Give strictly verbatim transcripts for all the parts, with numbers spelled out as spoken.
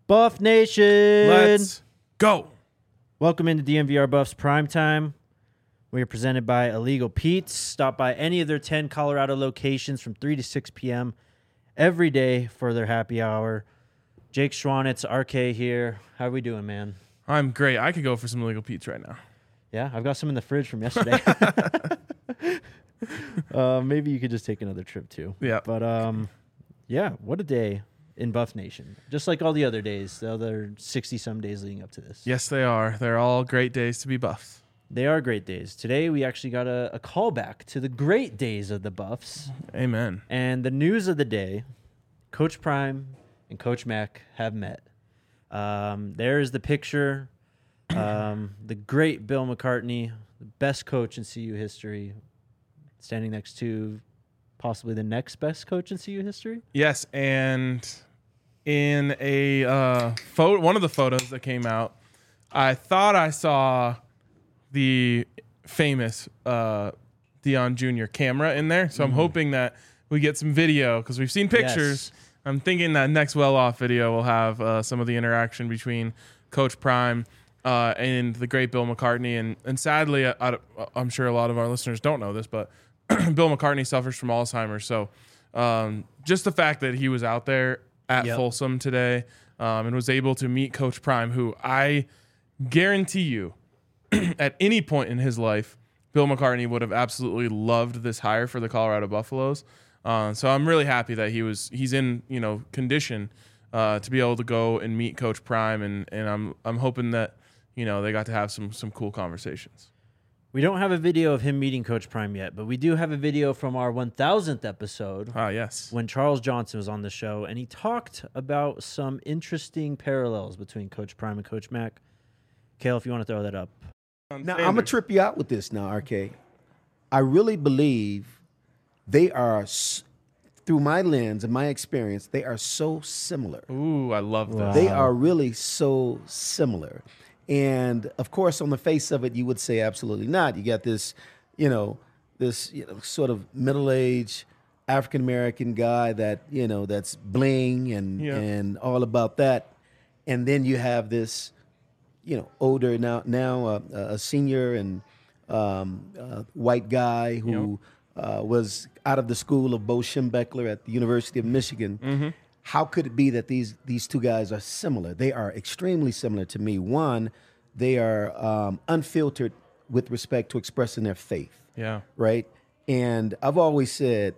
Buff Nation. Let's go. Welcome into D M V R Buffs Primetime. We are presented by Illegal Pete's. Stop by any of their ten Colorado locations from three to six p.m. every day for their happy hour. Jake Schwanitz, R K here. How are we doing, man? I'm great. I could go for some Illegal Pete's right now. Yeah, I've got some in the fridge from yesterday. uh, maybe you could just take another trip too. Yeah. But um, yeah, what a day in Buff Nation. Just like all the other days, the other sixty-some days leading up to this. Yes, they are. They're all great days to be Buffs. They are great days. Today, we actually got a, a callback to the great days of the Buffs. Amen. And the news of the day, Coach Prime and Coach Mac have met. Um, there's the picture. Um, the great Bill McCartney, the best coach in C U history, standing next to possibly the next best coach in C U history. Yes, and in a uh, photo, one of the photos that came out, I thought I saw the famous uh, Deion Junior camera in there. So mm. I'm hoping that we get some video because we've seen pictures. Yes. I'm thinking that next well-off video will have uh, some of the interaction between Coach Prime uh, and the great Bill McCartney. And and sadly, I, I, I'm sure a lot of our listeners don't know this, but Bill McCartney suffers from Alzheimer's. So um, just the fact that he was out there at yep. Folsom today um, and was able to meet Coach Prime, who I guarantee you at any point in his life, Bill McCartney would have absolutely loved this hire for the Colorado Buffaloes. Uh, so I'm really happy that he was he's in you know condition uh, to be able to go and meet Coach Prime, and, and I'm I'm hoping that you know they got to have some some cool conversations. We don't have a video of him meeting Coach Prime yet, but we do have a video from our one thousandth episode. Ah, yes, when Charles Johnson was on the show, and he talked about some interesting parallels between Coach Prime and Coach Mac. Kale, if you want to throw that up. Now, I'm going to trip you out with this now, R K. I really believe they are, through my lens and my experience, they are so similar. Ooh, I love that. Wow. They are really so similar. And, of course, on the face of it, you would say absolutely not. You got this, you know, this you know, sort of middle-aged African-American guy that, you know, that's bling and, yeah. and all about that. And then you have this, you know, older now, now uh, a senior and um, uh, white guy who yep. uh, was out of the school of Bo Schembechler at the University of Michigan. Mm-hmm. How could it be that these these two guys are similar? They are extremely similar to me. One, they are um, unfiltered with respect to expressing their faith. Yeah. Right? And I've always said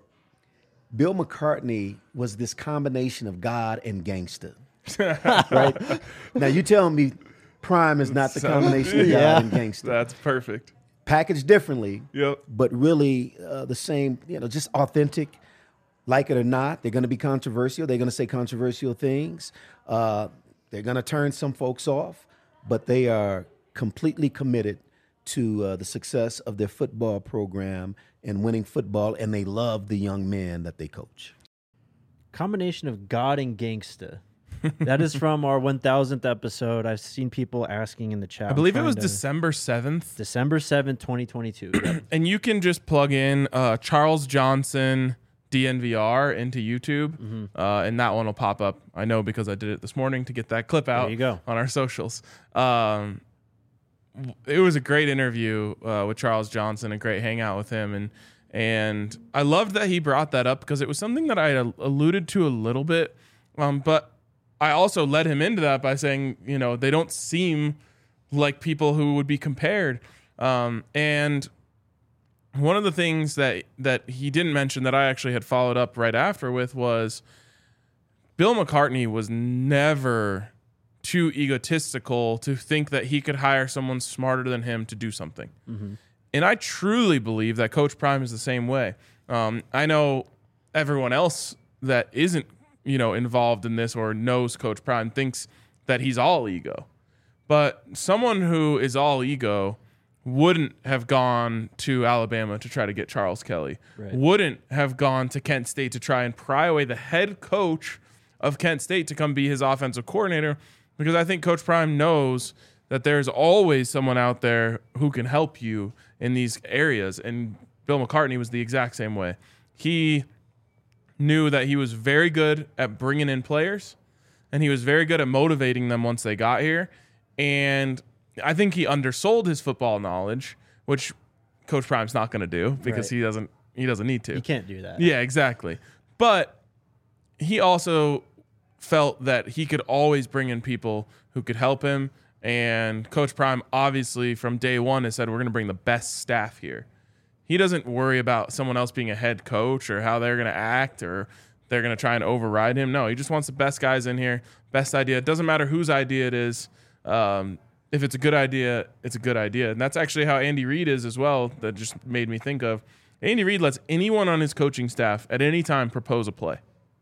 Bill McCartney was this combination of God and gangster. Right? Now, you tell me Prime is not the combination of God yeah. and gangster. That's perfect. Packaged differently, yep. but really uh, the same, you know, just authentic. Like it or not, they're going to be controversial. They're going to say controversial things. Uh, they're going to turn some folks off, but they are completely committed to uh, the success of their football program and winning football, and they love the young men that they coach. Combination of God and gangsta. That is from our one thousandth episode. I've seen people asking in the chat. I believe it was to... December seventh. December seventh, twenty twenty-two. And you can just plug in uh, Charles Johnson D N V R into YouTube, mm-hmm. uh, and that one will pop up. I know because I did it this morning to get that clip out there you go. on our socials. Um, it was a great interview uh, with Charles Johnson, a great hangout with him, and and I loved that he brought that up because it was something that I had alluded to a little bit, um, but I also led him into that by saying, you know, they don't seem like people who would be compared. Um, and one of the things that, that he didn't mention that I actually had followed up right after with was Bill McCartney was never too egotistical to think that he could hire someone smarter than him to do something. Mm-hmm. And I truly believe that Coach Prime is the same way. Um, I know everyone else that isn't you know, involved in this or knows Coach Prime thinks that he's all ego. But someone who is all ego wouldn't have gone to Alabama to try to get Charles Kelly, right. wouldn't have gone to Kent State to try and pry away the head coach of Kent State to come be his offensive coordinator, because I think Coach Prime knows that there's always someone out there who can help you in these areas. And Bill McCartney was the exact same way. He knew that he was very good at bringing in players, and he was very good at motivating them once they got here. And I think he undersold his football knowledge, which Coach Prime's not going to do because Right. he doesn't he doesn't need to. You can't do that. Yeah, exactly. But he also felt that he could always bring in people who could help him. And Coach Prime, obviously, from day one has said, we're going to bring the best staff here. He doesn't worry about someone else being a head coach or how they're going to act or they're going to try and override him. No, he just wants the best guys in here, best idea. It doesn't matter whose idea it is. Um, if it's a good idea, it's a good idea. And that's actually how Andy Reid is as well. That just made me think of Andy Reid lets anyone on his coaching staff at any time propose a play.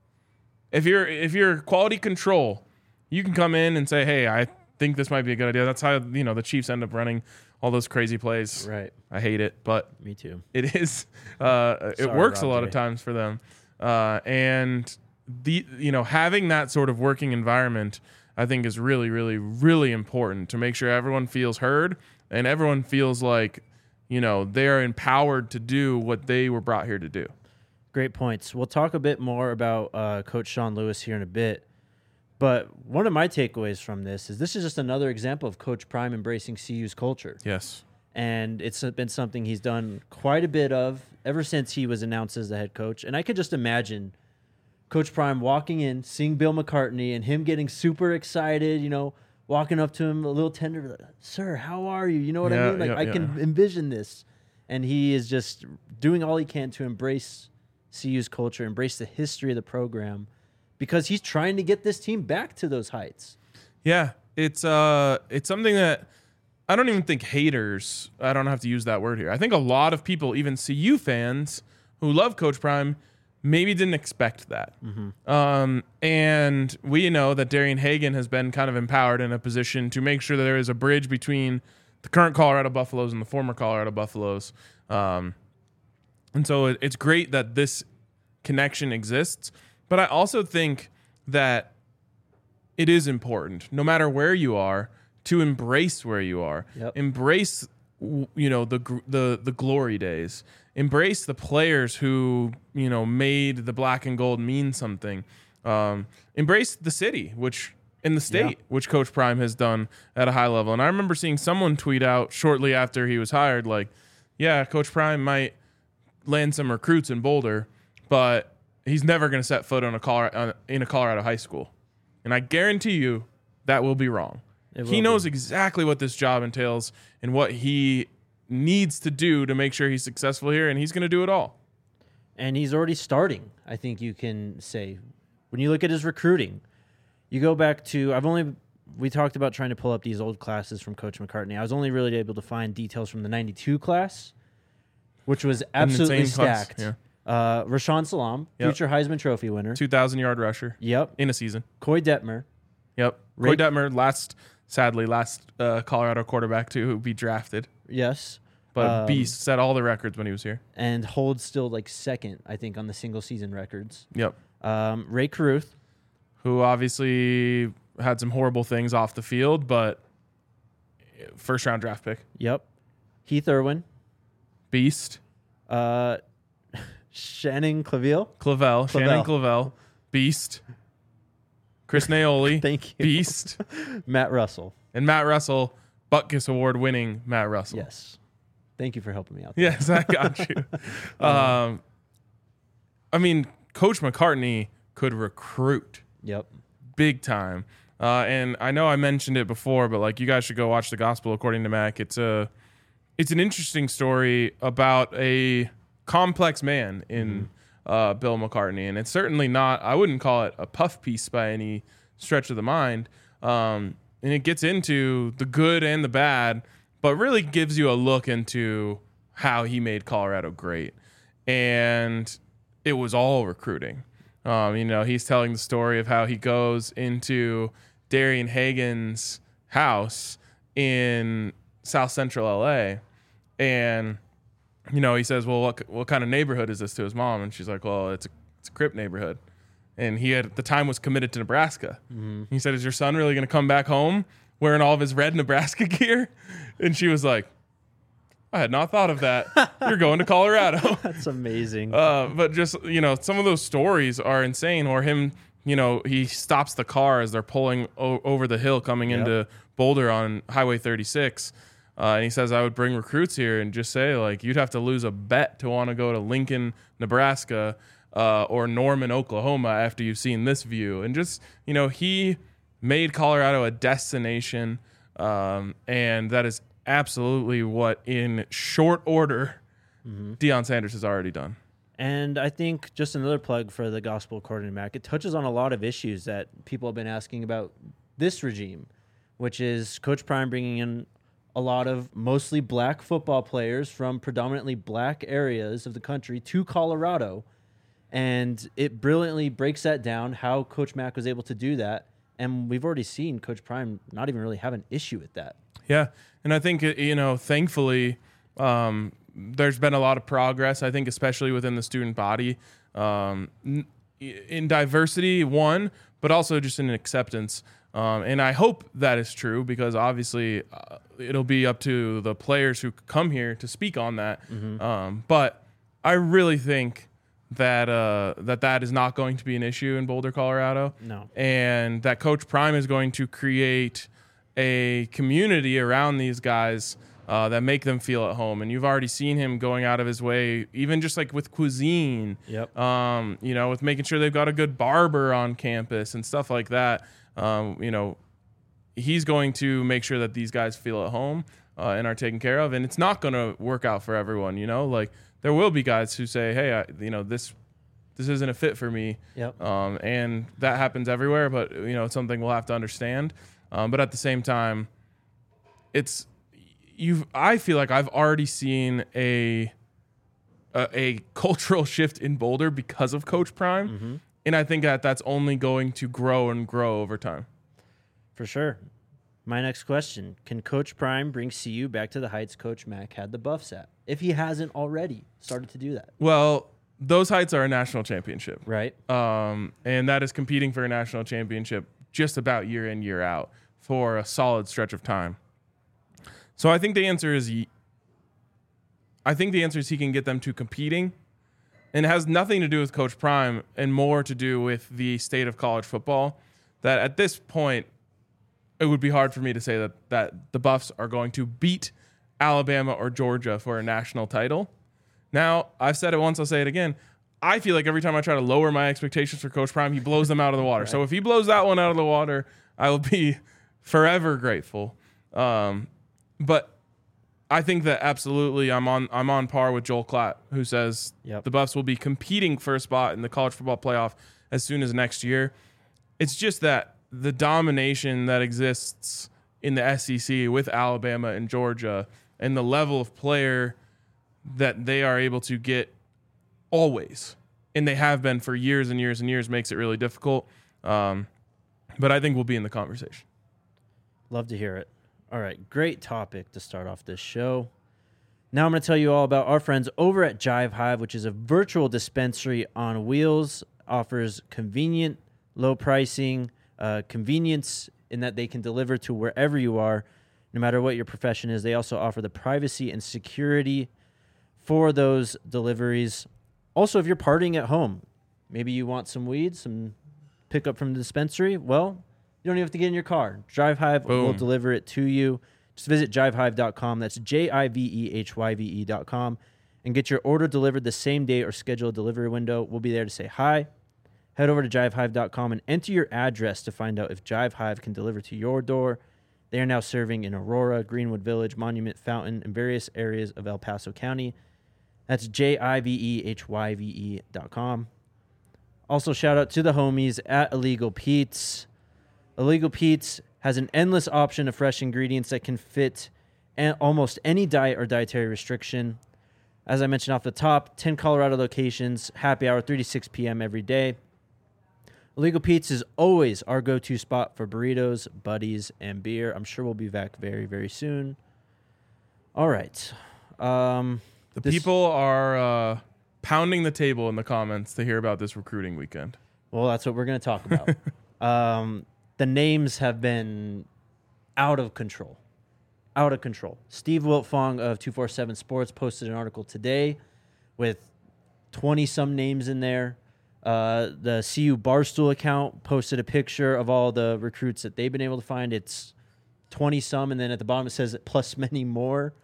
If you're if you're quality control, you can come in and say, "Hey, I think this might be a good idea." That's how, you know, the Chiefs end up running all those crazy plays. Right. I hate it, but Me too. it is. Uh, it Sorry, works a lot Rob of J. times for them, uh, and the you know having that sort of working environment, I think, is really, really, really important to make sure everyone feels heard and everyone feels like, you know, they are empowered to do what they were brought here to do. Great points. We'll talk a bit more about uh, Coach Sean Lewis here in a bit. But one of my takeaways from this is this is just another example of Coach Prime embracing C U's culture. Yes. And it's been something he's done quite a bit of ever since he was announced as the head coach. And I could just imagine Coach Prime walking in, seeing Bill McCartney, and him getting super excited, you know, walking up to him a little tender, like, "Sir, how are you?" You know what Yeah, I mean? Like, yeah, I can envision this. And he is just doing all he can to embrace C U's culture, embrace the history of the program, because he's trying to get this team back to those heights. Yeah, it's uh, it's something that I don't even think haters. I don't have to use that word here. I think a lot of people, even C U fans who love Coach Prime, maybe didn't expect that. Mm-hmm. Um, and we know that Darian Hagan has been kind of empowered in a position to make sure that there is a bridge between the current Colorado Buffaloes and the former Colorado Buffaloes. Um, and so it, it's great that this connection exists. But I also think that it is important, no matter where you are, to embrace where you are. Yep. Embrace, w- you know, the gr- the the glory days. Embrace the players who, you know, made the black and gold mean something. Um, embrace the city, which in the state, Yeah. which Coach Prime has done at a high level. And I remember seeing someone tweet out shortly after he was hired, like, "Yeah, Coach Prime might land some recruits in Boulder, but he's never going to set foot on a Colorado, in a Colorado high school." And I guarantee you that will be wrong. It He will knows be. exactly what this job entails and what he needs to do to make sure he's successful here, and he's going to do it all. And he's already starting, I think you can say. When you look at his recruiting, you go back to, I've only, we talked about trying to pull up these old classes from Coach McCartney. I was only really able to find details from the ninety-two class, which was absolutely insane class, stacked. yeah. Uh, Rashawn Salam, Yep. future Heisman Trophy winner. two thousand yard rusher Yep. in a season. Coy Detmer. Yep. Ray- Coy Detmer, last, sadly, last uh, Colorado quarterback to be drafted. Yes. But Um, Beast set all the records when he was here. And holds still like second, I think, on the single season records. Yep. Um, Ray Caruth. Who obviously had some horrible things off the field, but first round draft pick. Yep. Heath Irwin. Beast. Uh, Shannon Claviel. Clavel. Shannon Clavel. Clavel. Beast. Chris Naoli. Thank you. Beast. Matt Russell. And Matt Russell, Butkus Award winning Matt Russell. Yes. Thank you for helping me out there. Yes, I got you. um, I mean, Coach McCartney could recruit Yep. big time. Uh, and I know I mentioned it before, but like you guys should go watch The Gospel According to Mac. It's a, it's an interesting story about a complex man in uh, Bill McCartney, and it's certainly not. I wouldn't call it a puff piece by any stretch of the mind. Um, and it gets into the good and the bad, but really gives you a look into how he made Colorado great. And it was all recruiting. Um, you know, he's telling the story of how he goes into Darian Hagan's house in South Central L A, and you know, he says, "Well, what what kind of neighborhood is this?" to his mom, and she's like, "Well, it's a it's a Crip neighborhood." And he had at the time was committed to Nebraska. Mm-hmm. He said, "Is your son really going to come back home wearing all of his red Nebraska gear?" And she was like, "I had not thought of that. You're going to Colorado." That's amazing. Uh, but just, you know, some of those stories are insane, or him you know, he stops the car as they're pulling o- over the hill coming Yep. into Boulder on Highway thirty-six. Uh, and he says, I would bring recruits here and just say, like, you'd have to lose a bet to want to go to Lincoln, Nebraska, uh, or Norman, Oklahoma after you've seen this view. And just, you know, he made Colorado a destination. Um, and that is absolutely what, in short order, mm-hmm. Deion Sanders has already done. And I think just another plug for the Gospel According to Mac, it touches on a lot of issues that people have been asking about this regime, which is Coach Prime bringing in a lot of mostly black football players from predominantly black areas of the country to Colorado. And it brilliantly breaks that down, how Coach Mac was able to do that. And we've already seen Coach Prime not even really have an issue with that. Yeah. And I think, you know, thankfully, um, there's been a lot of progress, I think, especially within the student body, um, in diversity, one, but also just in acceptance. Um, and I hope that is true because obviously uh, it'll be up to the players who come here to speak on that. Mm-hmm. Um, but I really think that uh, that that is not going to be an issue in Boulder, Colorado. No. And that Coach Prime is going to create a community around these guys uh, that make them feel at home. And you've already seen him going out of his way, even just like with cuisine, Yep. um, you know, with making sure they've got a good barber on campus and stuff like that. Um, you know, he's going to make sure that these guys feel at home uh, and are taken care of. And it's not going to work out for everyone, you know, like there will be guys who say, hey, I, you know, this this isn't a fit for me. Yep. Um, and that happens everywhere, but, you know, it's something we'll have to understand. Um, but at the same time, it's you've I feel like I've already seen a a, a cultural shift in Boulder because of Coach Prime. Mm-hmm. And I think that that's only going to grow and grow over time. For sure. My next question, can Coach Prime bring C U back to the heights Coach Mac had the Buffs at, if he hasn't already started to do that? Well, those heights are a national championship. Right. Um, and that is competing for a national championship just about year in, year out for a solid stretch of time. So I think the answer is I think the answer is he can get them to competing. And it has nothing to do with Coach Prime and more to do with the state of college football, that at this point, it would be hard for me to say that, that the Buffs are going to beat Alabama or Georgia for a national title. Now, I've said it once, I'll say it again. I feel like every time I try to lower my expectations for Coach Prime, he blows them out of the water. Right. So if he blows that one out of the water, I will be forever grateful. Um, but I think that absolutely I'm on I'm on par with Joel Klatt, who says yep. the Buffs will be competing for a spot in the college football playoff as soon as next year. It's just that the domination that exists in the S E C with Alabama and Georgia and the level of player that they are able to get always, and they have been for years and years and years, makes it really difficult. Um, but I think we'll be in the conversation. Love to hear it. All right, great topic to start off this show. Now I'm going to tell you all about our friends over at Jive Hive, which is a virtual dispensary on wheels, offers convenient, low pricing, uh, convenience in that they can deliver to wherever you are, no matter what your profession is. They also offer the privacy and security for those deliveries. Also, if you're partying at home, maybe you want some weed, some pickup from the dispensary, well, you don't even have to get in your car. Jive Hive Boom. will deliver it to you. Just visit jive hive dot com. That's J I V E H Y V E dot com. And get your order delivered the same day or schedule a delivery window. We'll be there to say hi. Head over to jive hive dot com and enter your address to find out if Jive Hive can deliver to your door. They are now serving in Aurora, Greenwood Village, Monument Fountain, and various areas of El Paso County. That's J I V E H Y V E dot com. Also, shout out to the homies at Illegal Pete's. Illegal Pete's has an endless option of fresh ingredients that can fit an, almost any diet or dietary restriction. As I mentioned off the top, ten Colorado locations, happy hour, three to six p.m. every day. Illegal Pete's is always our go-to spot for burritos, buddies, and beer. I'm sure we'll be back very, very soon. All right. Um, the this, people are uh, pounding the table in the comments to hear about this recruiting weekend. Well, that's what we're going to talk about. um, the names have been out of control. Out of control. Steve Wiltfong of two forty-seven Sports posted an article today with twenty-some names in there. Uh, the C U Barstool account posted a picture of all the recruits that they've been able to find. It's twenty some, and then at the bottom it says plus many more.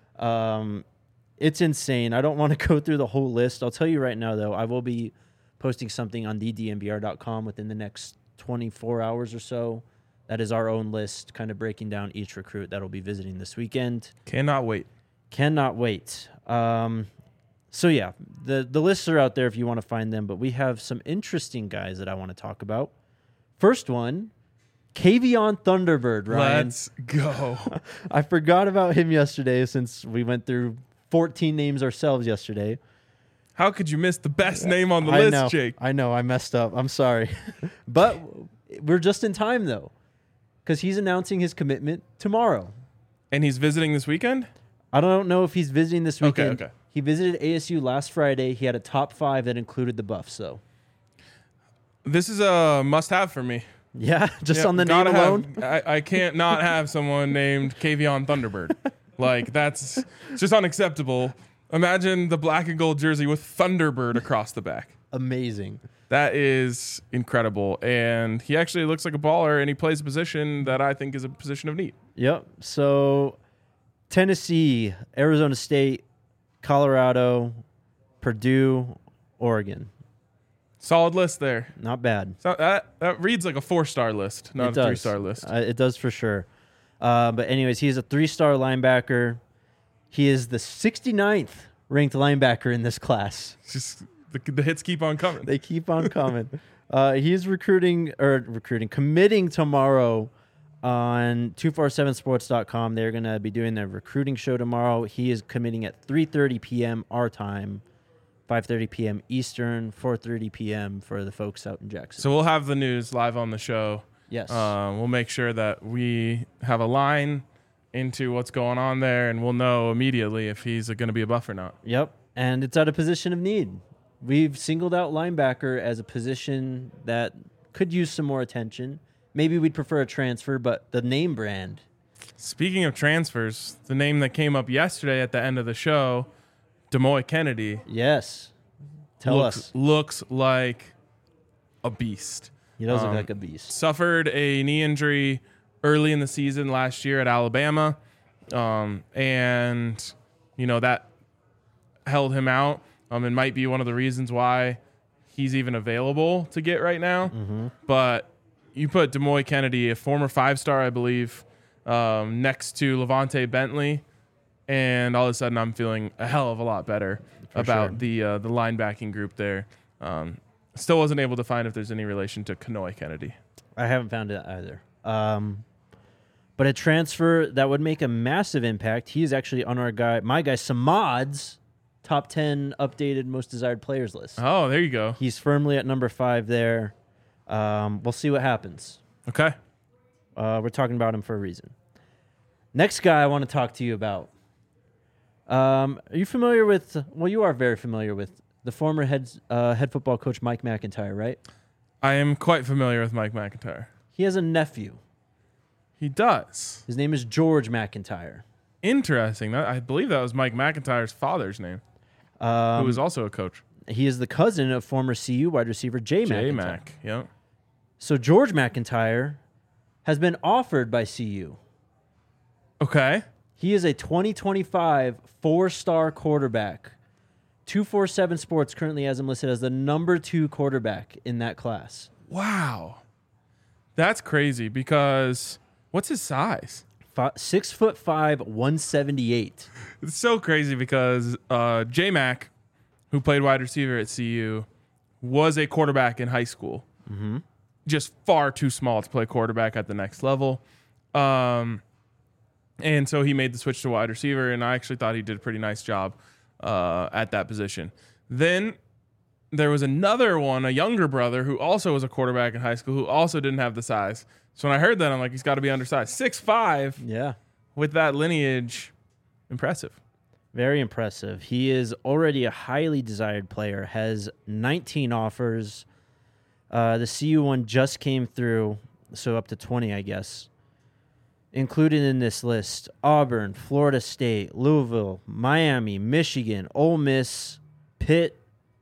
Um, it's insane. I don't want to go through the whole list. I'll tell you right now, though, I will be posting something on the d n b r dot com within the next twenty-four hours or so. That is our own list, kind of breaking down each recruit that will be visiting this weekend. Cannot wait. Cannot wait. Um, so, yeah, the, the lists are out there if you want to find them, but we have some interesting guys that I want to talk about. First one, Kavion Thunderbird, Ryan. Let's go. I forgot about him yesterday since we went through fourteen names ourselves yesterday. How could you miss the best name on the I list, know, Jake? I know, I messed up. I'm sorry. But we're just in time, though, because he's announcing his commitment tomorrow. And he's visiting this weekend? I don't know if he's visiting this Okay, weekend. okay. He visited A S U last Friday. He had a top five that included the Buffs, so. This is a must-have for me. Yeah, just Yeah, on the name gotta alone? have- I, I can't not have someone named Kavion Thunderbird. Like, that's it's just unacceptable. Imagine the black and gold jersey with Thunderbird across the back. Amazing. That is incredible. And he actually looks like a baller, and he plays a position that I think is a position of need. Yep. So Tennessee, Arizona State, Colorado, Purdue, Oregon. Solid list there. Not bad. So that, that reads like a four-star list, not It a does. three-star list. Uh, it does for sure. Uh, but anyways, he is a three-star linebacker. He is the sixty-ninth ranked linebacker in this class. It's just the, the hits keep on coming. They keep on coming. uh, he's recruiting or recruiting, committing tomorrow on two forty-seven sports dot com. They're going to be doing their recruiting show tomorrow. He is committing at three thirty p.m. our time, five thirty p.m. Eastern, four thirty p.m. for the folks out in Jackson. So we'll have the news live on the show. Yes. Um, we'll make sure that we have a line into what's going on there, and we'll know immediately if he's going to be a buff or not. Yep. And it's at a position of need. We've singled out linebacker as a position that could use some more attention. Maybe we'd prefer a transfer, but the name brand. Speaking of transfers, the name that came up yesterday at the end of the show, Demoy Kennedy, Yes. Tell looks, us. looks like a beast. He does look um, like a beast. Suffered a knee injury early in the season last year at Alabama, um, and you know that held him out. Um, and might be one of the reasons why he's even available to get right now. Mm-hmm. But you put Demoy Kennedy, a former five-star, I believe, um, next to Levante Bentley, and all of a sudden I'm feeling a hell of a lot better For about sure. the uh, the linebacking group there. Um, still wasn't able to find if there's any relation to Kanoy Kennedy. I haven't found it either. Um, but a transfer that would make a massive impact. He is actually on our guy, my guy Samad's top ten updated most desired players list. Oh, there you go. He's firmly at number five there. Um, we'll see what happens. Okay. Uh, we're talking about him for a reason. Next guy I want to talk to you about. Um, are you familiar with? Well, you are very familiar with the former head uh, head football coach Mike McIntyre, right? I am quite familiar with Mike McIntyre. He has a nephew. He does. His name is George McIntyre. Interesting. That, I believe that was Mike McIntyre's father's name, Um, who was also a coach. He is the cousin of former C U wide receiver Jay McIntyre. J-Mac. Yep. So George McIntyre has been offered by C U. Okay. He is a twenty twenty-five four-star quarterback. two forty-seven Sports currently has him listed as the number two quarterback in that class. Wow. That's crazy because what's his size? Fi six foot five, one seventy-eight. It's so crazy because uh, J-Mac, who played wide receiver at C U, was a quarterback in high school. Mm-hmm. Just far too small to play quarterback at the next level. Um, and so he made the switch to wide receiver, and I actually thought he did a pretty nice job uh, at that position. Then there was another one, a younger brother, who also was a quarterback in high school, who also didn't have the size. So when I heard that, I'm like, he's got to be undersized. six five Yeah. with that lineage, impressive. Very impressive. He is already a highly desired player, has nineteen offers. Uh, the C U one just came through, so up to twenty, I guess. Included in this list, Auburn, Florida State, Louisville, Miami, Michigan, Ole Miss, Pitt,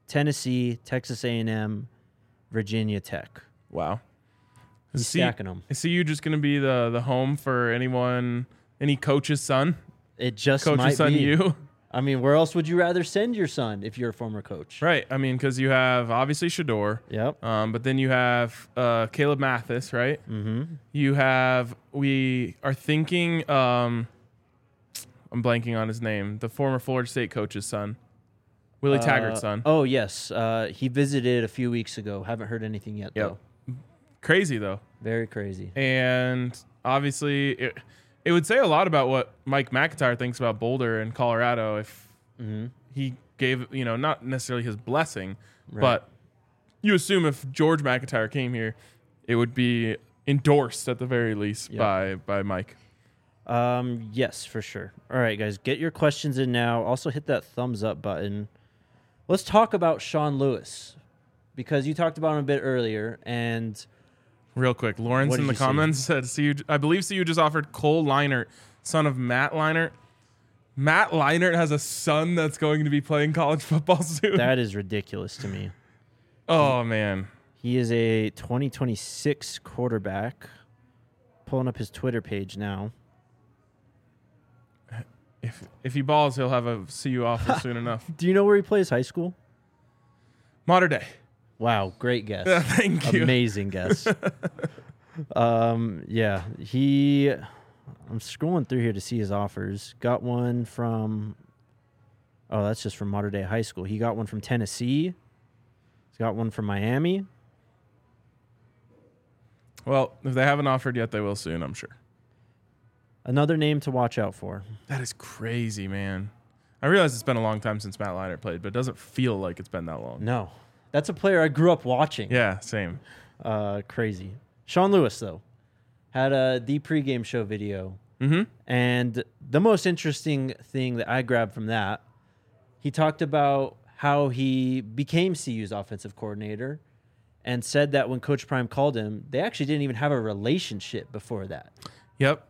Tennessee, Texas A and M, Virginia Tech. Wow. He's Is C- stacking them. Is C U just going to be the the home for anyone, any coach's son? It just Coach's might son, be. you. I mean, where else would you rather send your son if you're a former coach? Right. I mean, because you have obviously Shador. Yep. Um, but then you have uh, Caleb Mathis, right? Mm-hmm. You have, we are thinking, um, I'm blanking on his name, the former Florida State coach's son, Willie Taggart's son. Oh, yes. Uh, he visited a few weeks ago. Haven't heard anything yet, Yep. though. Crazy, though. Very crazy. And obviously, it, it would say a lot about what Mike McIntyre thinks about Boulder and Colorado if Mm-hmm. he gave, you know, not necessarily his blessing, Right. but you assume if George McIntyre came here, it would be endorsed at the very least Yep. by by Mike. Um, yes, for sure. All right, guys, get your questions in now. Also, hit that thumbs up button. Let's talk about Sean Lewis because you talked about him a bit earlier, and Real quick, Lawrence What in did the you see? comments said, "See you." I believe C U just offered Cole Leinert, son of Matt Leinert. Matt Leinert has a son that's going to be playing college football soon. that is ridiculous to me. Oh man, He is a twenty twenty-six quarterback. Pulling up his Twitter page now. if if he balls, he'll have a C U offer soon enough. Do you know where he plays high school? Modern day. Wow, great guess. Thank you. Amazing guess. um, yeah, he. I'm scrolling through here to see his offers. Got one from. Oh, that's just from Modern Day High School. He got one from Tennessee. He's got one from Miami. Well, if they haven't offered yet, they will soon, I'm sure. Another name to watch out for. That is crazy, man. I realize it's been a long time since Matt Leinart played, but it doesn't feel like it's been that long. No, that's a player I grew up watching. Yeah, same. Uh, crazy. Sean Lewis though had a the pregame show video. Mm-hmm. And the most interesting thing that I grabbed from that, he talked about how he became C U's offensive coordinator and said that when Coach Prime called him, they actually didn't even have a relationship before that. Yep.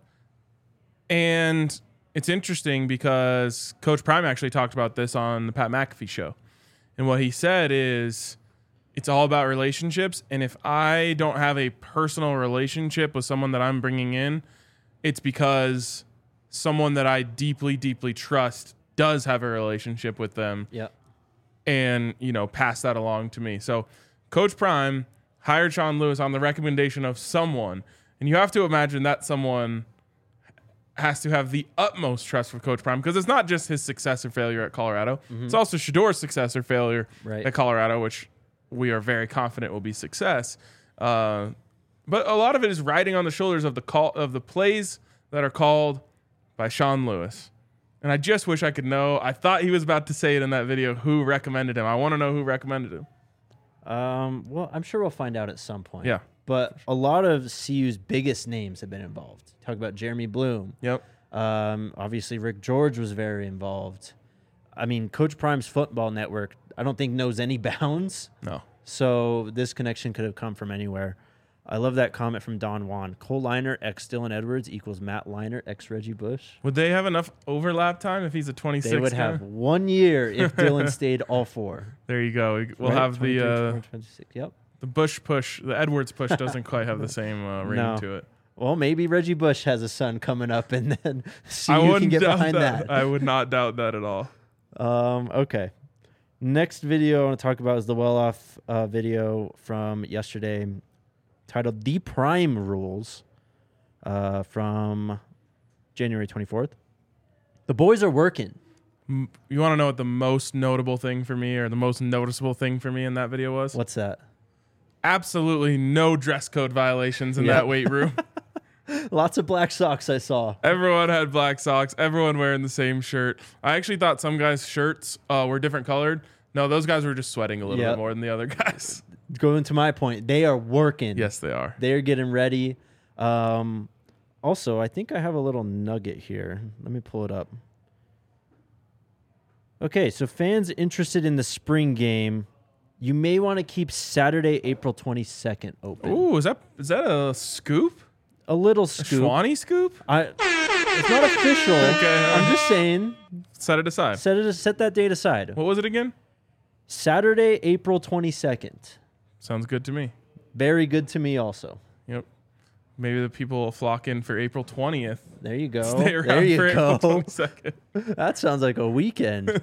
And it's interesting because Coach Prime actually talked about this on the Pat McAfee show. And what he said is it's all about relationships. And if I don't have a personal relationship with someone that I'm bringing in, it's because someone that I deeply, deeply trust does have a relationship with them Yep. and, you know, pass that along to me. So Coach Prime hired Sean Lewis on the recommendation of someone. And you have to imagine that someone has to have the utmost trust for Coach Prime because it's not just his success or failure at Colorado. Mm-hmm. It's also Shador's success or failure Right. at Colorado, which we are very confident will be success. Uh, but a lot of it is riding on the shoulders of the call of the plays that are called by Sean Lewis. And I just wish I could know. I thought he was about to say it in that video. Who recommended him? I want to know who recommended him. Um, well, I'm sure we'll find out at some point. Yeah. But a lot of C U's biggest names have been involved. Talk about Jeremy Bloom. Yep. Um, obviously, Rick George was very involved. I mean, Coach Prime's football network, I don't think knows any bounds. No. So this connection could have come from anywhere. I love that comment from Don Juan. Cole Leinart x Dylan Edwards equals Matt Leinart x Reggie Bush. Would they have enough overlap time if he's a twenty-six? They would guy? have one year if Dylan stayed all four. There you go. We'll Right? have the twenty-three, uh, twenty-four, twenty-six. Yep. the Bush push. The Edwards push doesn't quite have the same uh, ring No. to it. Well, maybe Reggie Bush has a son coming up, and then see I you wouldn't can get doubt behind that. that. I would not doubt that at all. Um, okay. Next video I want to talk about is the well-off uh, video from yesterday titled The Prime Rules uh, from January twenty-fourth. The boys are working. M- You want to know what the most notable thing for me or the most noticeable thing for me in that video was? What's that? Absolutely no dress code violations in Yeah. that weight room. Lots of black socks I saw. Everyone had black socks. Everyone wearing the same shirt. I actually thought some guys' shirts uh, were different colored. No, those guys were just sweating a little Yep. bit more than the other guys. Going to my point, they are working. Yes, they are. They're getting ready. Um, also, I think I have a little nugget here. Let me pull it up. Okay, so fans interested in the spring game, you may want to keep Saturday, April twenty-second open. Ooh, is that is that a scoop? A little A scoop. Schwanny scoop? I, it's not official. Okay. I'm just saying, Set it aside. set it set that date aside. What was it again? Saturday, April twenty-second. Sounds good to me. Very good to me also. Yep. Maybe the people will flock in for April twentieth. There you go. Stay around There you for go. April twenty-second. That sounds like a weekend.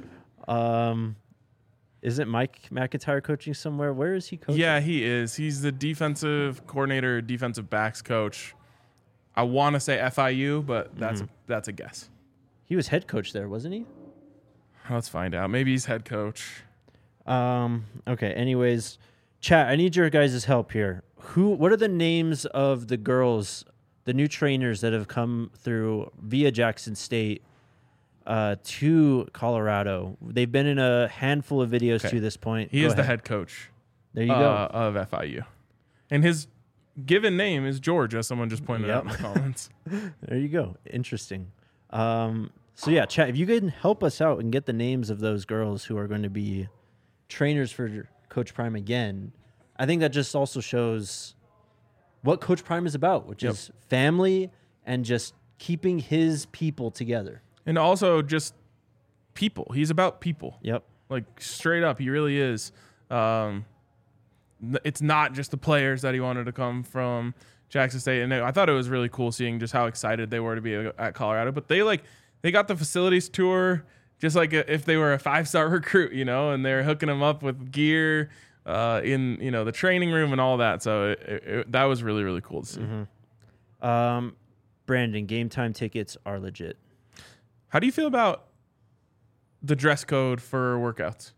um, isn't Mike McIntyre coaching somewhere? Where is he coaching? Yeah, he is. He's the defensive coordinator, defensive backs coach. I want to say F I U, but that's Mm-hmm. that's a guess. He was head coach there, wasn't he? Let's find out. Maybe he's head coach. Um, okay. Anyways, chat, I need your guys' help here. Who? What are the names of the girls, the new trainers that have come through via Jackson State uh, to Colorado? They've been in a handful of videos Okay. to this point. He Go is the ahead. head coach There you uh, go. of F I U. And his given name is George, as someone just pointed out in Yep. the comments. There you go. Interesting. Um, so yeah, chat. If you can help us out and get the names of those girls who are going to be trainers for Coach Prime again, I think that just also shows what Coach Prime is about, which Yep. is family and just keeping his people together. And also just people. He's about people. Yep. Like straight up, he really is. Um, n- it's not just the players that he wanted to come from Jackson State, and I thought it was really cool seeing just how excited they were to be at Colorado. But they like they got the facilities tour just like if they were a five star recruit, you know, and they're hooking them up with gear uh, in you know the training room and all that. So it, it, it, that was really really cool to see. Mm-hmm. Um, Brandon, game time tickets are legit. How do you feel about the dress code for workouts?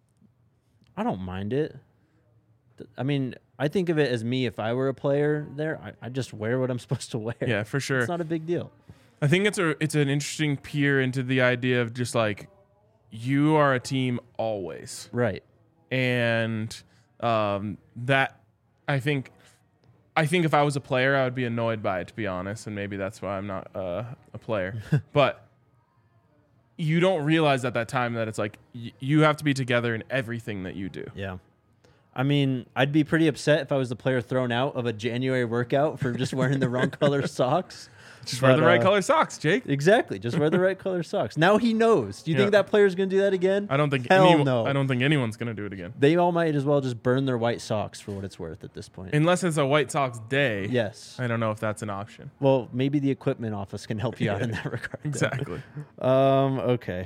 I don't mind it. Th- I mean, I think of it as me if I were a player there. I, I just wear what I'm supposed to wear. Yeah, for sure. It's not a big deal. I think it's a it's an interesting peer into the idea of just like you are a team always, Right. and um, that I think I think if I was a player, I would be annoyed by it, to be honest, and maybe that's why I'm not uh, a player. But you don't realize at that time that it's like y- you have to be together in everything that you do. Yeah. I mean, I'd be pretty upset if I was the player thrown out of a January workout for just wearing the wrong color socks. Just wear But, the right uh, color socks, Jake. Exactly. Just wear the right color socks. Now he knows. Do you Yeah. think that player's going to do that again? I don't think Hell anyone, no. I don't think anyone's gonna do it again, They all might as well just burn their white socks for what it's worth at this point. unless it's a White Sox day. Yes. I don't know if that's an option. Well, maybe the equipment office can help you out in that regard. though. Exactly. Um, okay.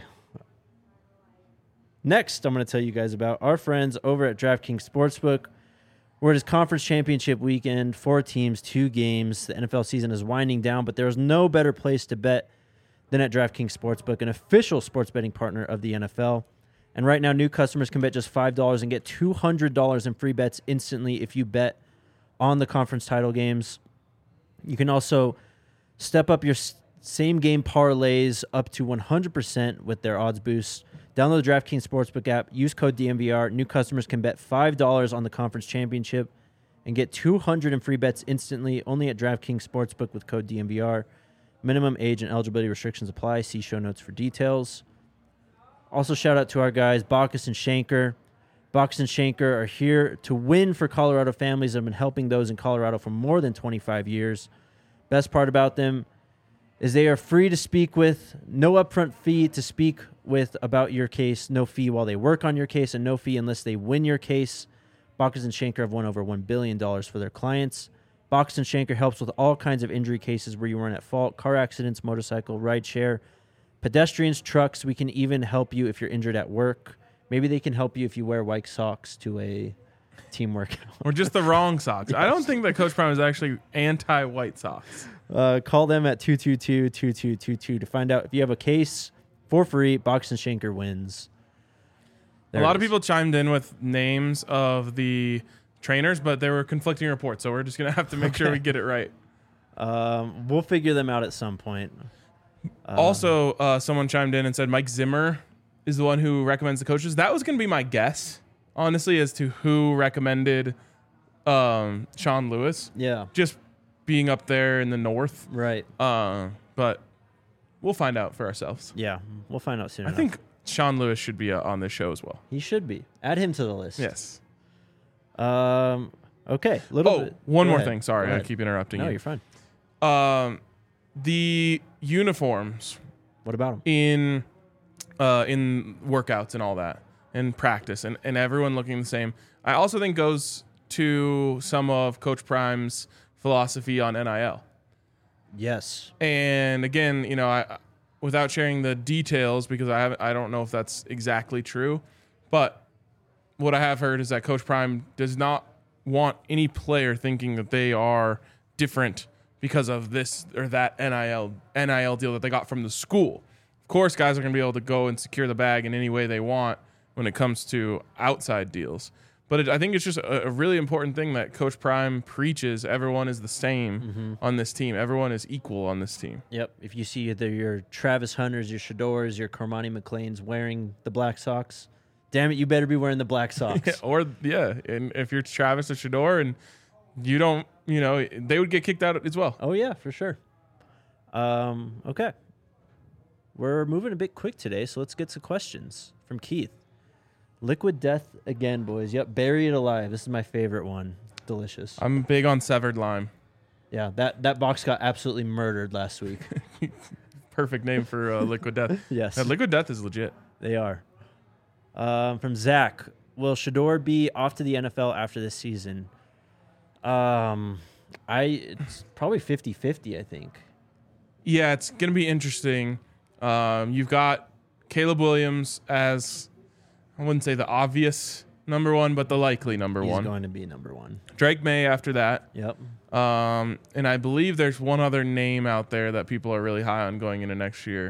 Next, I'm going to tell you guys about our friends over at DraftKings Sportsbook, where it is conference championship weekend, four teams, two games. The N F L season is winding down, but there is no better place to bet than at DraftKings Sportsbook, an official sports betting partner of the N F L. And right now, new customers can bet just five dollars and get two hundred dollars in free bets instantly if you bet on the conference title games. You can also step up your s- same game parlays up to one hundred percent with their odds boost. Download the DraftKings Sportsbook app. Use code D M V R. New customers can bet five dollars on the conference championship and get two hundred in free bets instantly only at DraftKings Sportsbook with code D M V R. Minimum age and eligibility restrictions apply. See show notes for details. Also, shout out to our guys, Bacchus and Shanker. Bacchus and Shanker are here to win for Colorado families that have been helping those in Colorado for more than twenty-five years. Best part about them is they are free to speak with, no upfront fee to speak with about your case, no fee while they work on your case, and no fee unless they win your case. Bacchus and Shanker have won over one billion dollars for their clients. Bacchus and Shanker helps with all kinds of injury cases where you weren't at fault, car accidents, motorcycle, ride share, pedestrians, trucks. We can even help you if you're injured at work. Maybe they can help you if you wear white socks to a team workout. Or just the wrong socks. I don't think that Coach Prime is actually anti-White Sox. Uh, call them at two two two, two two two two to find out if you have a case for free. Bacchus and Shanker wins. There a lot it of is. people chimed in with names of the trainers, but there were conflicting reports, so we're just going to have to make sure we get it right. Um, we'll figure them out at some point. Uh, Also, uh, someone chimed in and said Mike Zimmer is the one who recommends the coaches. That was going to be my guess, honestly, as to who recommended um, Sean Lewis. yeah, Just being up there in the north. right. Uh, but we'll find out for ourselves. Yeah, we'll find out soon I enough. think Sean Lewis should be uh, on this show as well. He should be. Add him to the list. Yes. Um. Okay. Little Oh, bit. one Go more ahead. thing. Sorry, Go I ahead. keep interrupting No, you. you're fine. Um, the uniforms What about him? in uh, in workouts and all that, in practice and, and everyone looking the same. I also think goes to some of Coach Prime's philosophy on N I L. Yes. And again, you know, I, without sharing the details, because I haven't, I don't know if that's exactly true, but what I have heard is that Coach Prime does not want any player thinking that they are different because of this or that N I L N I L deal that they got from the school. Of course, guys are going to be able to go and secure the bag in any way they want when it comes to outside deals. But it, I think it's just a, a really important thing that Coach Prime preaches. Everyone is the same mm-hmm. on this team. Everyone is equal on this team. Yep. If you see either your Travis Hunters, your Shadors, your Cormani McLean's wearing the black socks, damn it, you better be wearing the black socks. Yeah, or, yeah, and if you're Travis or Shador and you don't, you know, they would get kicked out as well. Oh, yeah, for sure. Um, okay. We're moving a bit quick today, so let's get some questions from Keith. Liquid Death again, boys. Yep, Bury It Alive. This is my favorite one. Delicious. I'm big on Severed Lime. Yeah, that, that box got absolutely murdered last week. Perfect name for uh, Liquid Death. Yes. Yeah, Liquid Death is legit. They are. Um, from Zach, will Shador be off to the N F L after this season? Um, I it's probably fifty-fifty, I think. Yeah, it's going to be interesting. Um, you've got Caleb Williams as, I wouldn't say the obvious number one, but the likely number He's one. He's going to be number one. Drake May after that. Yep. Um, and I believe there's one other name out there that people are really high on going into next year.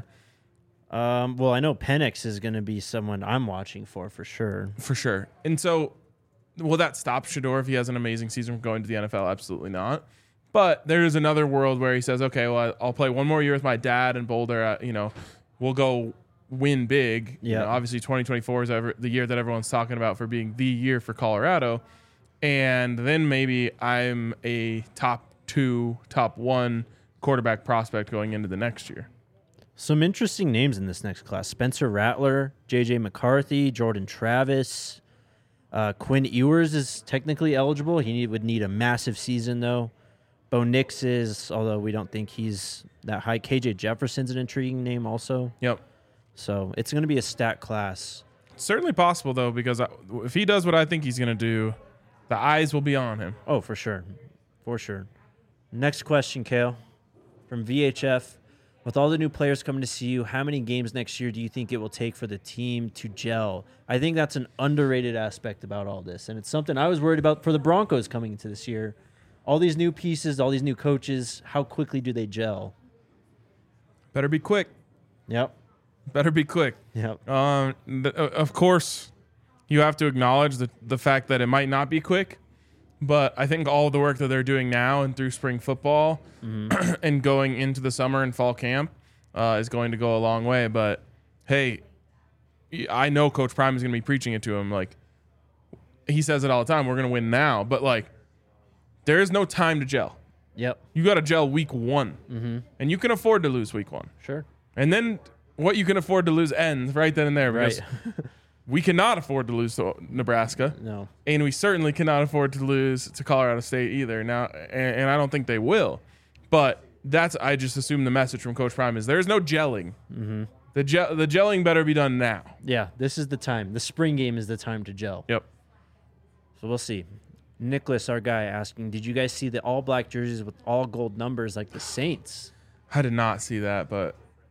Um, well, I know Penix is going to be someone I'm watching for, for sure. For sure. And so, will that stop Shador if he has an amazing season from going to the N F L? Absolutely not. But there is another world where he says, okay, well, I'll play one more year with my dad in Boulder. Uh, you know, we'll go win big. Yeah. You know, obviously, twenty twenty-four is ever, the year that everyone's talking about for being the year for Colorado. And then maybe I'm a top two, top one quarterback prospect going into the next year. Some interesting names in this next class. Spencer Rattler, J J McCarthy, Jordan Travis. Uh, Quinn Ewers is technically eligible. He need, would need a massive season, though. Bo Nix is, although we don't think he's that high. K J Jefferson's an intriguing name also. Yep. So it's going to be a stat class. It's certainly possible, though, because I, if he does what I think he's going to do, the eyes will be on him. Oh, for sure. For sure. Next question, Kale, from V H F. With all the new players coming to see you, how many games next year do you think it will take for the team to gel? I think that's an underrated aspect about all this, and it's something I was worried about for the Broncos coming into this year. All these new pieces, all these new coaches, how quickly do they gel? Better be quick. Yep. Better be quick. Yep. Um, th- of course, you have to acknowledge the, the fact that it might not be quick, but I think all the work that they're doing now and through spring football mm-hmm. and going into the summer and fall camp uh, is going to go a long way. But, hey, I know Coach Prime is going to be preaching it to him. Like, he says it all the time, we're going to win now. But, like, there is no time to gel. Yep. You got to gel week one. Mm-hmm. And you can afford to lose week one. Sure. And then what you can afford to lose ends right then and there. Because right. we cannot afford to lose to Nebraska. No. And we certainly cannot afford to lose to Colorado State either. Now, and, and I don't think they will. But that's, I just assume the message from Coach Prime is there's no gelling. Mm-hmm. The, gel, the gelling better be done now. Yeah, this is the time. The spring game is the time to gel. Yep. So we'll see. Nicholas, our guy, asking, did you guys see the all-black jerseys with all gold numbers like the Saints? I did not see that, but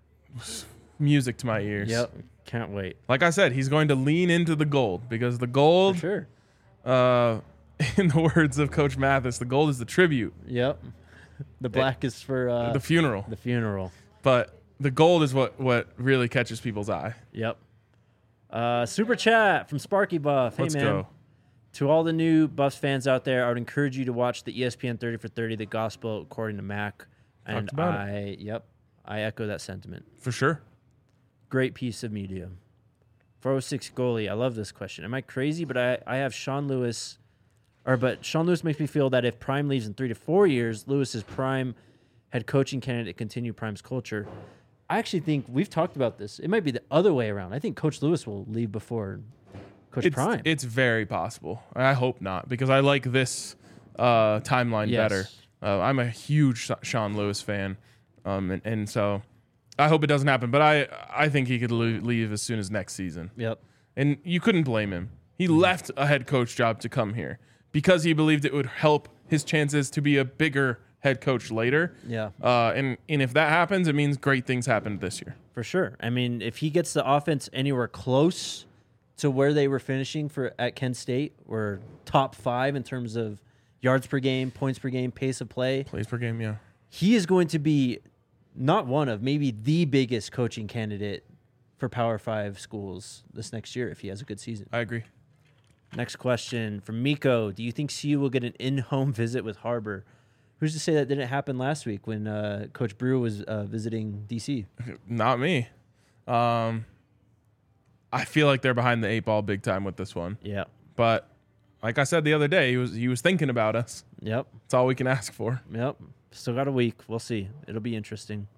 music to my ears. Yep. Can't wait. Like I said, he's going to lean into the gold because the gold, For sure. uh, in the words of Coach Mathis, the gold is the tribute. Yep. The black it, is for uh, the funeral. The funeral. But the gold is what, what really catches people's eye. Yep. Uh, super chat from Sparky Buff. Hey, Let's man. go. To all the new Buffs fans out there, I would encourage you to watch the E S P N thirty for thirty, the gospel according to Mac. And about I, it. yep, I echo that sentiment. For sure. Great piece of media. four oh six goalie. I love this question. Am I crazy? But I, I have Sean Lewis, or but Sean Lewis makes me feel that if Prime leaves in three to four years, Lewis is prime head coaching candidate to continue Prime's culture. I actually think we've talked about this. It might be the other way around. I think Coach Lewis will leave before Coach It's, Prime. it's very possible. I hope not because I like this uh, timeline Yes. better. Uh, I'm a huge Sean Lewis fan, um, and, and so I hope it doesn't happen. But I I think he could leave as soon as next season. Yep. And you couldn't blame him. He left a head coach job to come here because he believed it would help his chances to be a bigger head coach later. Yeah. Uh, and, and if that happens, it means great things happened this year. For sure. I mean, if he gets the offense anywhere close to where they were finishing for at Kent State, or top five in terms of yards per game, points per game, pace of play, Plays per game, yeah. he is going to be not one of, maybe the biggest coaching candidate for Power Five schools this next year if he has a good season. I agree. Next question from Miko. Do you think C U will get an in-home visit with Harbor? Who's to say that didn't happen last week when uh, Coach Brew was uh, visiting D C? Not me. Um, I feel like they're behind the eight ball big time with this one. Yeah. But like I said the other day, he was he was thinking about us. Yep. That's all we can ask for. Yep. Still got a week. We'll see. It'll be interesting.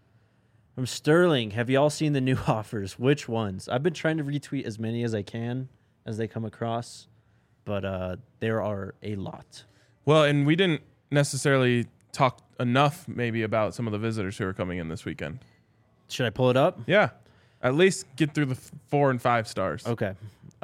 From Sterling, have you all seen the new offers? Which ones? I've been trying to retweet as many as I can as they come across, but uh, there are a lot. Well, and we didn't necessarily talk enough maybe about some of the visitors who are coming in this weekend. Should I pull it up? Yeah. At least get through the f- four and five stars. Okay.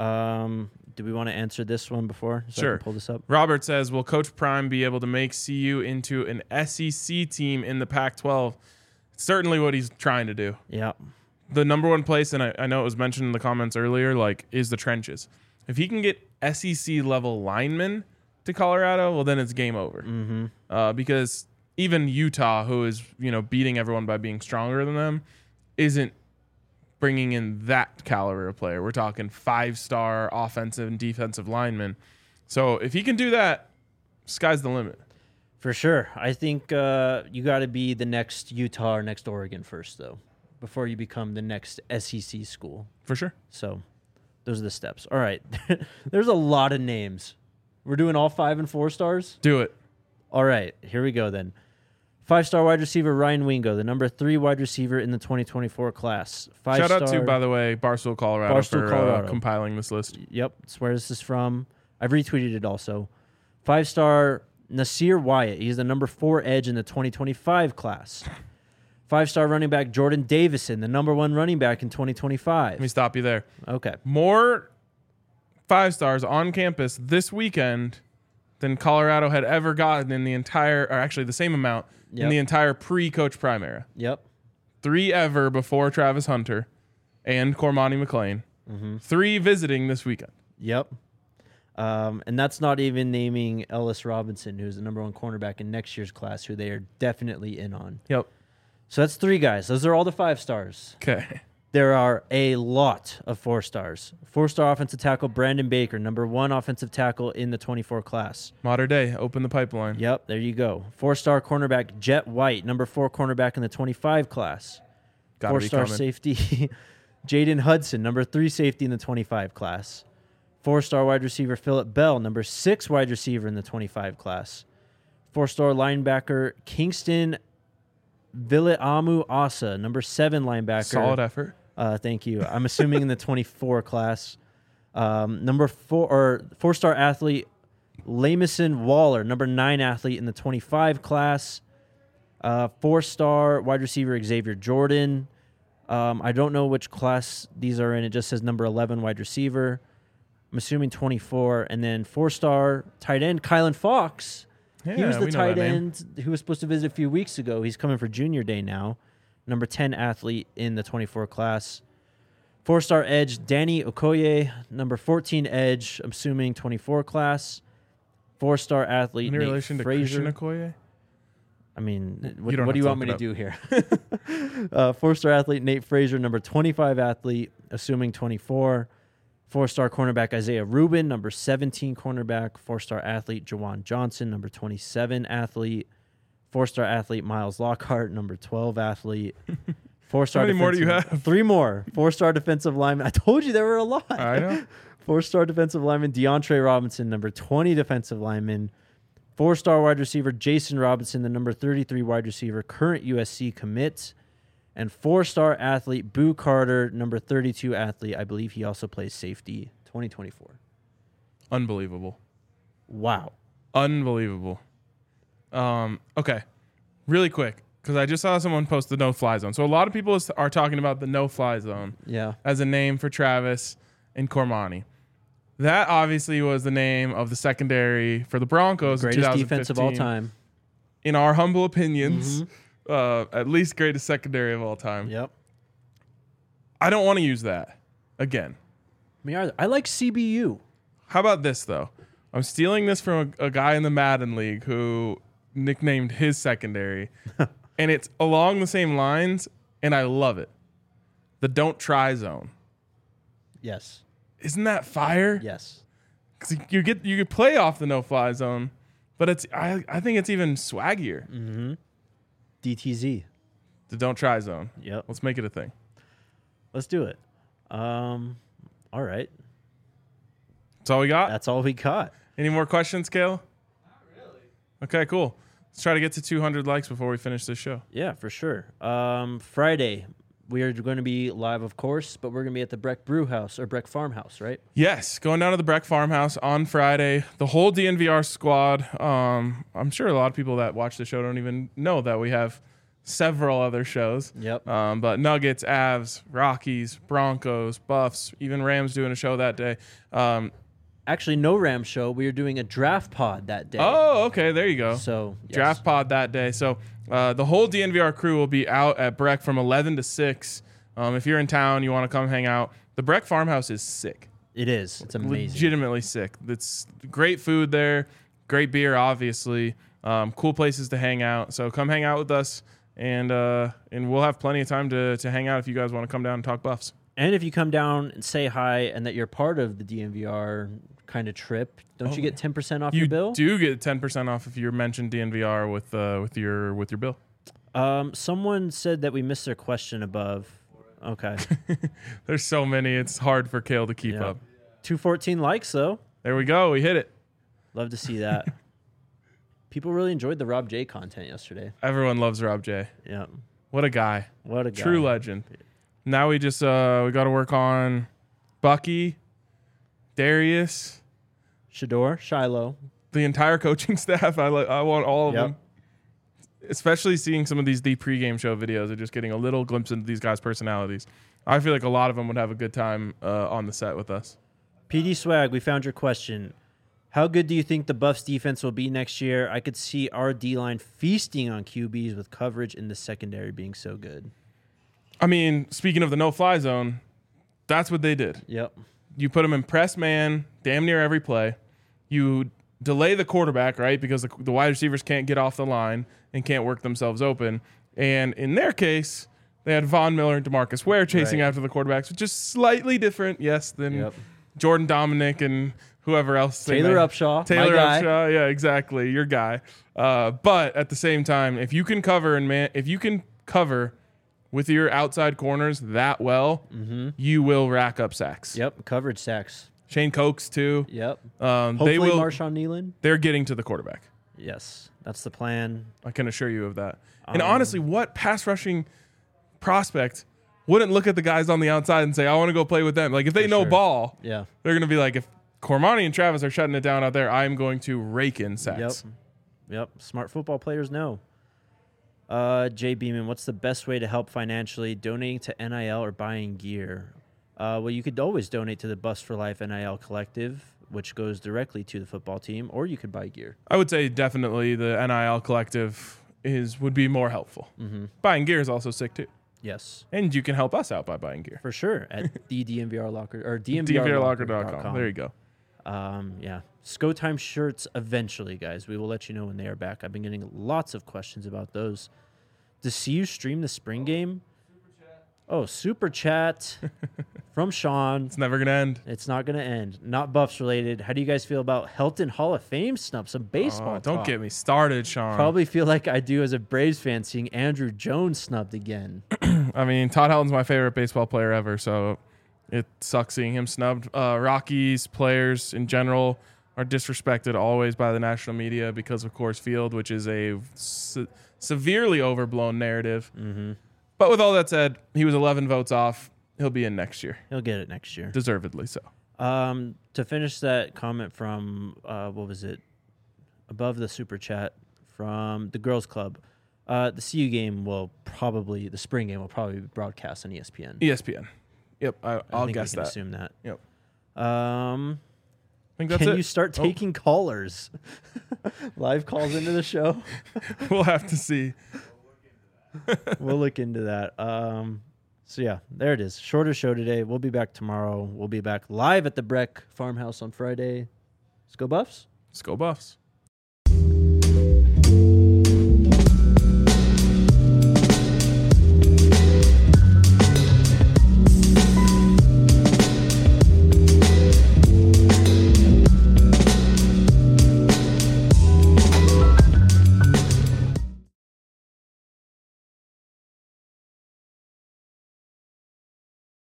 Um, do we want to answer this one before? So Sure. I can pull this up. Robert says, will Coach Prime be able to make C U into an S E C team in the Pac twelve? Certainly what he's trying to do. Yeah. The number one place, and I, I know it was mentioned in the comments earlier, like, is the trenches. If he can get S E C level linemen to Colorado, well, then it's game over. Mm-hmm. Uh, because even Utah, who is, you know, beating everyone by being stronger than them, isn't bringing in that caliber of player. We're talking five-star offensive and defensive linemen. So if he can do that, sky's the limit. For sure. I think uh, you got to be the next Utah or next Oregon first, though, before you become the next S E C school. For sure. So those are the steps. All right. There's a lot of names. We're doing all five and four stars? Do it. All right. Here we go then. Five-star wide receiver Ryan Wingo, the number three wide receiver in the twenty twenty-four class. Five Shout out star, to, by the way, Barstool Colorado Barstool, for Colorado. Uh, compiling this list. Yep, that's where this is from. I've retweeted it also. Five-star Nasir Wyatt. He's the number four edge in the twenty twenty-five class. Five-star running back Jordan Davison, the number one running back in twenty twenty-five. Let me stop you there. Okay. More five stars on campus this weekend than Colorado had ever gotten in the entire, or actually the same amount Yep. in the entire pre-Coach Prime era. Yep. Three ever before Travis Hunter and Cormani McLean. Mm-hmm. Three visiting this weekend. Yep. Um, and that's not even naming Ellis Robinson, who's the number one cornerback in next year's class, who they are definitely in on. Yep. So that's three guys. Those are all the five stars. Okay. There are a lot of four stars. Four-star offensive tackle Brandon Baker, number one offensive tackle in the twenty-four class. Modern day. Open the pipeline. Yep, there you go. Four-star cornerback Jet White, number four cornerback in the twenty-five class. Gotta be Four-star coming. safety Jaden Hudson, number three safety in the twenty-five class. Four-star wide receiver Phillip Bell, number six wide receiver in the twenty-five class. Four-star linebacker Kingston Viliamu Asa, number seven linebacker. Solid effort. Uh, thank you. I'm assuming in the twenty-four class. Um, number four or four-star athlete Lamison Waller, number nine athlete in the twenty-five class. Uh, four-star wide receiver Xavier Jordan. Um, I don't know which class these are in. It just says number eleven wide receiver. I'm assuming twenty-four. And then four-star tight end Kylan Fox. Yeah, he was the we know tight that name. end who was supposed to visit a few weeks ago. He's coming for junior day now. Number ten athlete in the twenty-four class. Four-star edge Danny Okoye. Number fourteen edge, I'm assuming twenty-four class. Four-star athlete Any Nate relation to Frazier. Christian Okoye? I mean, what, You don't what do have you to want me look to it do here? uh, four-star athlete Nate Frazier. Number twenty-five athlete, assuming twenty-four. Four-star cornerback Isaiah Rubin. Number seventeen cornerback. Four-star athlete Jawan Johnson. Number twenty-seven athlete. Four-star athlete Miles Lockhart. Number twelve athlete. Four-star. How many more do you defensive- have? Three more. Four-star defensive lineman. I told you there were a lot. I know. Four-star defensive lineman DeAndre Robinson. Number twenty defensive lineman. Four-star wide receiver Jason Robinson. The number thirty-three wide receiver. Current U S C commit. And four-star athlete Boo Carter. Number thirty-two athlete. I believe he also plays safety. twenty twenty-four. Unbelievable. Wow. Unbelievable. Um, okay, really quick, because I just saw someone post the no-fly zone. So a lot of people is- are talking about the no-fly zone Yeah. as a name for Travis and Cormani. That obviously was the name of the secondary for the Broncos. Greatest in defense of all time. In our humble opinions, mm-hmm. uh, at least greatest secondary of all time. Yep. I don't want to use that again. Me either. I like C B U. How about this, though? I'm stealing this from a, a guy in the Madden League who nicknamed his secondary, and it's along the same lines, and I love it. The don't try zone. Yes. Isn't that fire? Yes. Because you get you could play off the no fly zone, but it's I, I think it's even swaggier. Mm-hmm. D T Z. The don't try zone. Yep. Let's make it a thing. Let's do it. Um, all right. That's all we got? That's all we got. Any more questions, Kale? Not really. Okay, cool. Let's try to get to two hundred likes before we finish this show. Yeah, for sure. Um, Friday, we are going to be live, of course, but we're going to be at the Breck Brew House or Breck Farmhouse, right? Yes, going down to the Breck Farmhouse on Friday. The whole D N V R squad. Um, I'm sure a lot of people that watch the show don't even know that we have several other shows. Yep. Um, but Nuggets, Avs, Rockies, Broncos, Buffs, even Rams doing a show that day. Um, Actually, no Rams show. We are doing a draft pod that day. Oh, okay. There you go. So yes. Draft pod that day. So uh, the whole D N V R crew will be out at Breck from eleven to six. Um, if you're in town, you want to come hang out. The Breck Farmhouse is sick. It is. It's amazing. Legitimately sick. It's great food there. Great beer, obviously. Um, cool places to hang out. So come hang out with us, and uh, and we'll have plenty of time to to hang out if you guys want to come down and talk Buffs. And if you come down and say hi and that you're part of the D N V R kind of trip, don't oh, you get ten percent off you your bill? You do get ten percent off if you mention D N V R with uh, with your with your bill. Um, someone said that we missed their question above. Okay. There's so many. It's hard for Kale to keep yeah. up. two fourteen likes, though. There we go. We hit it. Love to see that. People really enjoyed the Rob J content yesterday. Everyone loves Rob J. Yeah. What a guy. What a guy. True legend. Now we just uh, we got to work on Bucky, Darius, Shador, Shiloh, the entire coaching staff. I like. I want all of yep. them. Especially seeing some of these the pregame show videos and just getting a little glimpse into these guys' personalities. I feel like a lot of them would have a good time uh, on the set with us. P D Swag, we found your question. How good do you think the Buffs defense will be next year? I could see our D-line feasting on Q Bs with coverage in the secondary being so good. I mean, speaking of the no-fly zone, that's what they did. Yep. You put them in press man damn near every play. You delay the quarterback, right, because the, the wide receivers can't get off the line and can't work themselves open. And in their case, they had Von Miller and DeMarcus Ware chasing right. after the quarterbacks, which is slightly different, yes, than yep. Jordan Dominic and whoever else. Taylor Upshaw. Taylor my guy. Upshaw, yeah, exactly, your guy. Uh, but at the same time, if you can cover and man, if you can cover with your outside corners that well, mm-hmm. you will rack up sacks. Yep, coverage sacks. Shane Cokes too. Yep. Um, Hopefully they will. Marshawn Nealon. They're getting to the quarterback. Yes, that's the plan. I can assure you of that. Um, and honestly, what pass rushing prospect wouldn't look at the guys on the outside and say, I want to go play with them? Like, if they For know sure. ball, Yeah. they're going to be like, if Cormani and Travis are shutting it down out there, I'm going to rake in sacks. Yep. Yep. Smart football players know. Uh, Jay Beeman, what's the best way to help financially? Donating to N I L or buying gear? Uh, well, you could always donate to the Bust for Life N I L Collective, which goes directly to the football team, or you could buy gear. I would say definitely the N I L collective is would be more helpful. Mm-hmm. Buying gear is also sick too. Yes. And you can help us out by buying gear. For sure. At the D N V R Locker or D D N V R N V R locker Locker dot dot com. com. There you go. Um, yeah. Sco Time shirts eventually, guys. We will let you know when they are back. I've been getting lots of questions about those. To see you stream the spring game? Oh, super chat from Sean. It's never going to end. It's not going to end. Not Buffs related. How do you guys feel about Helton Hall of Fame snub? Some baseball Oh, don't talk. get me started, Sean. Probably feel like I do as a Braves fan seeing Andrew Jones snubbed again. I mean, Todd Helton's my favorite baseball player ever, so it sucks seeing him snubbed. Uh, Rockies players in general are disrespected always by the national media because of Coors Field, which is a se- severely overblown narrative. Mm-hmm. But with all that said, he was eleven votes off. He'll be in next year. He'll get it next year. Deservedly so. Um, to finish that comment from, uh, what was it? Above the super chat from the Girls Club. Uh, the C U game will probably, the spring game will probably be broadcast on E S P N. E S P N. Yep, I, I I'll think guess we can that. assume that. Yep. Um, I think that's can it. you start Oh. taking callers? Live calls into the show. We'll have to see. We'll look into that. Um, so yeah, there it is. Shorter show today. We'll be back tomorrow. We'll be back live at the Breck Farmhouse on Friday. Let's go Buffs. Let's go Buffs.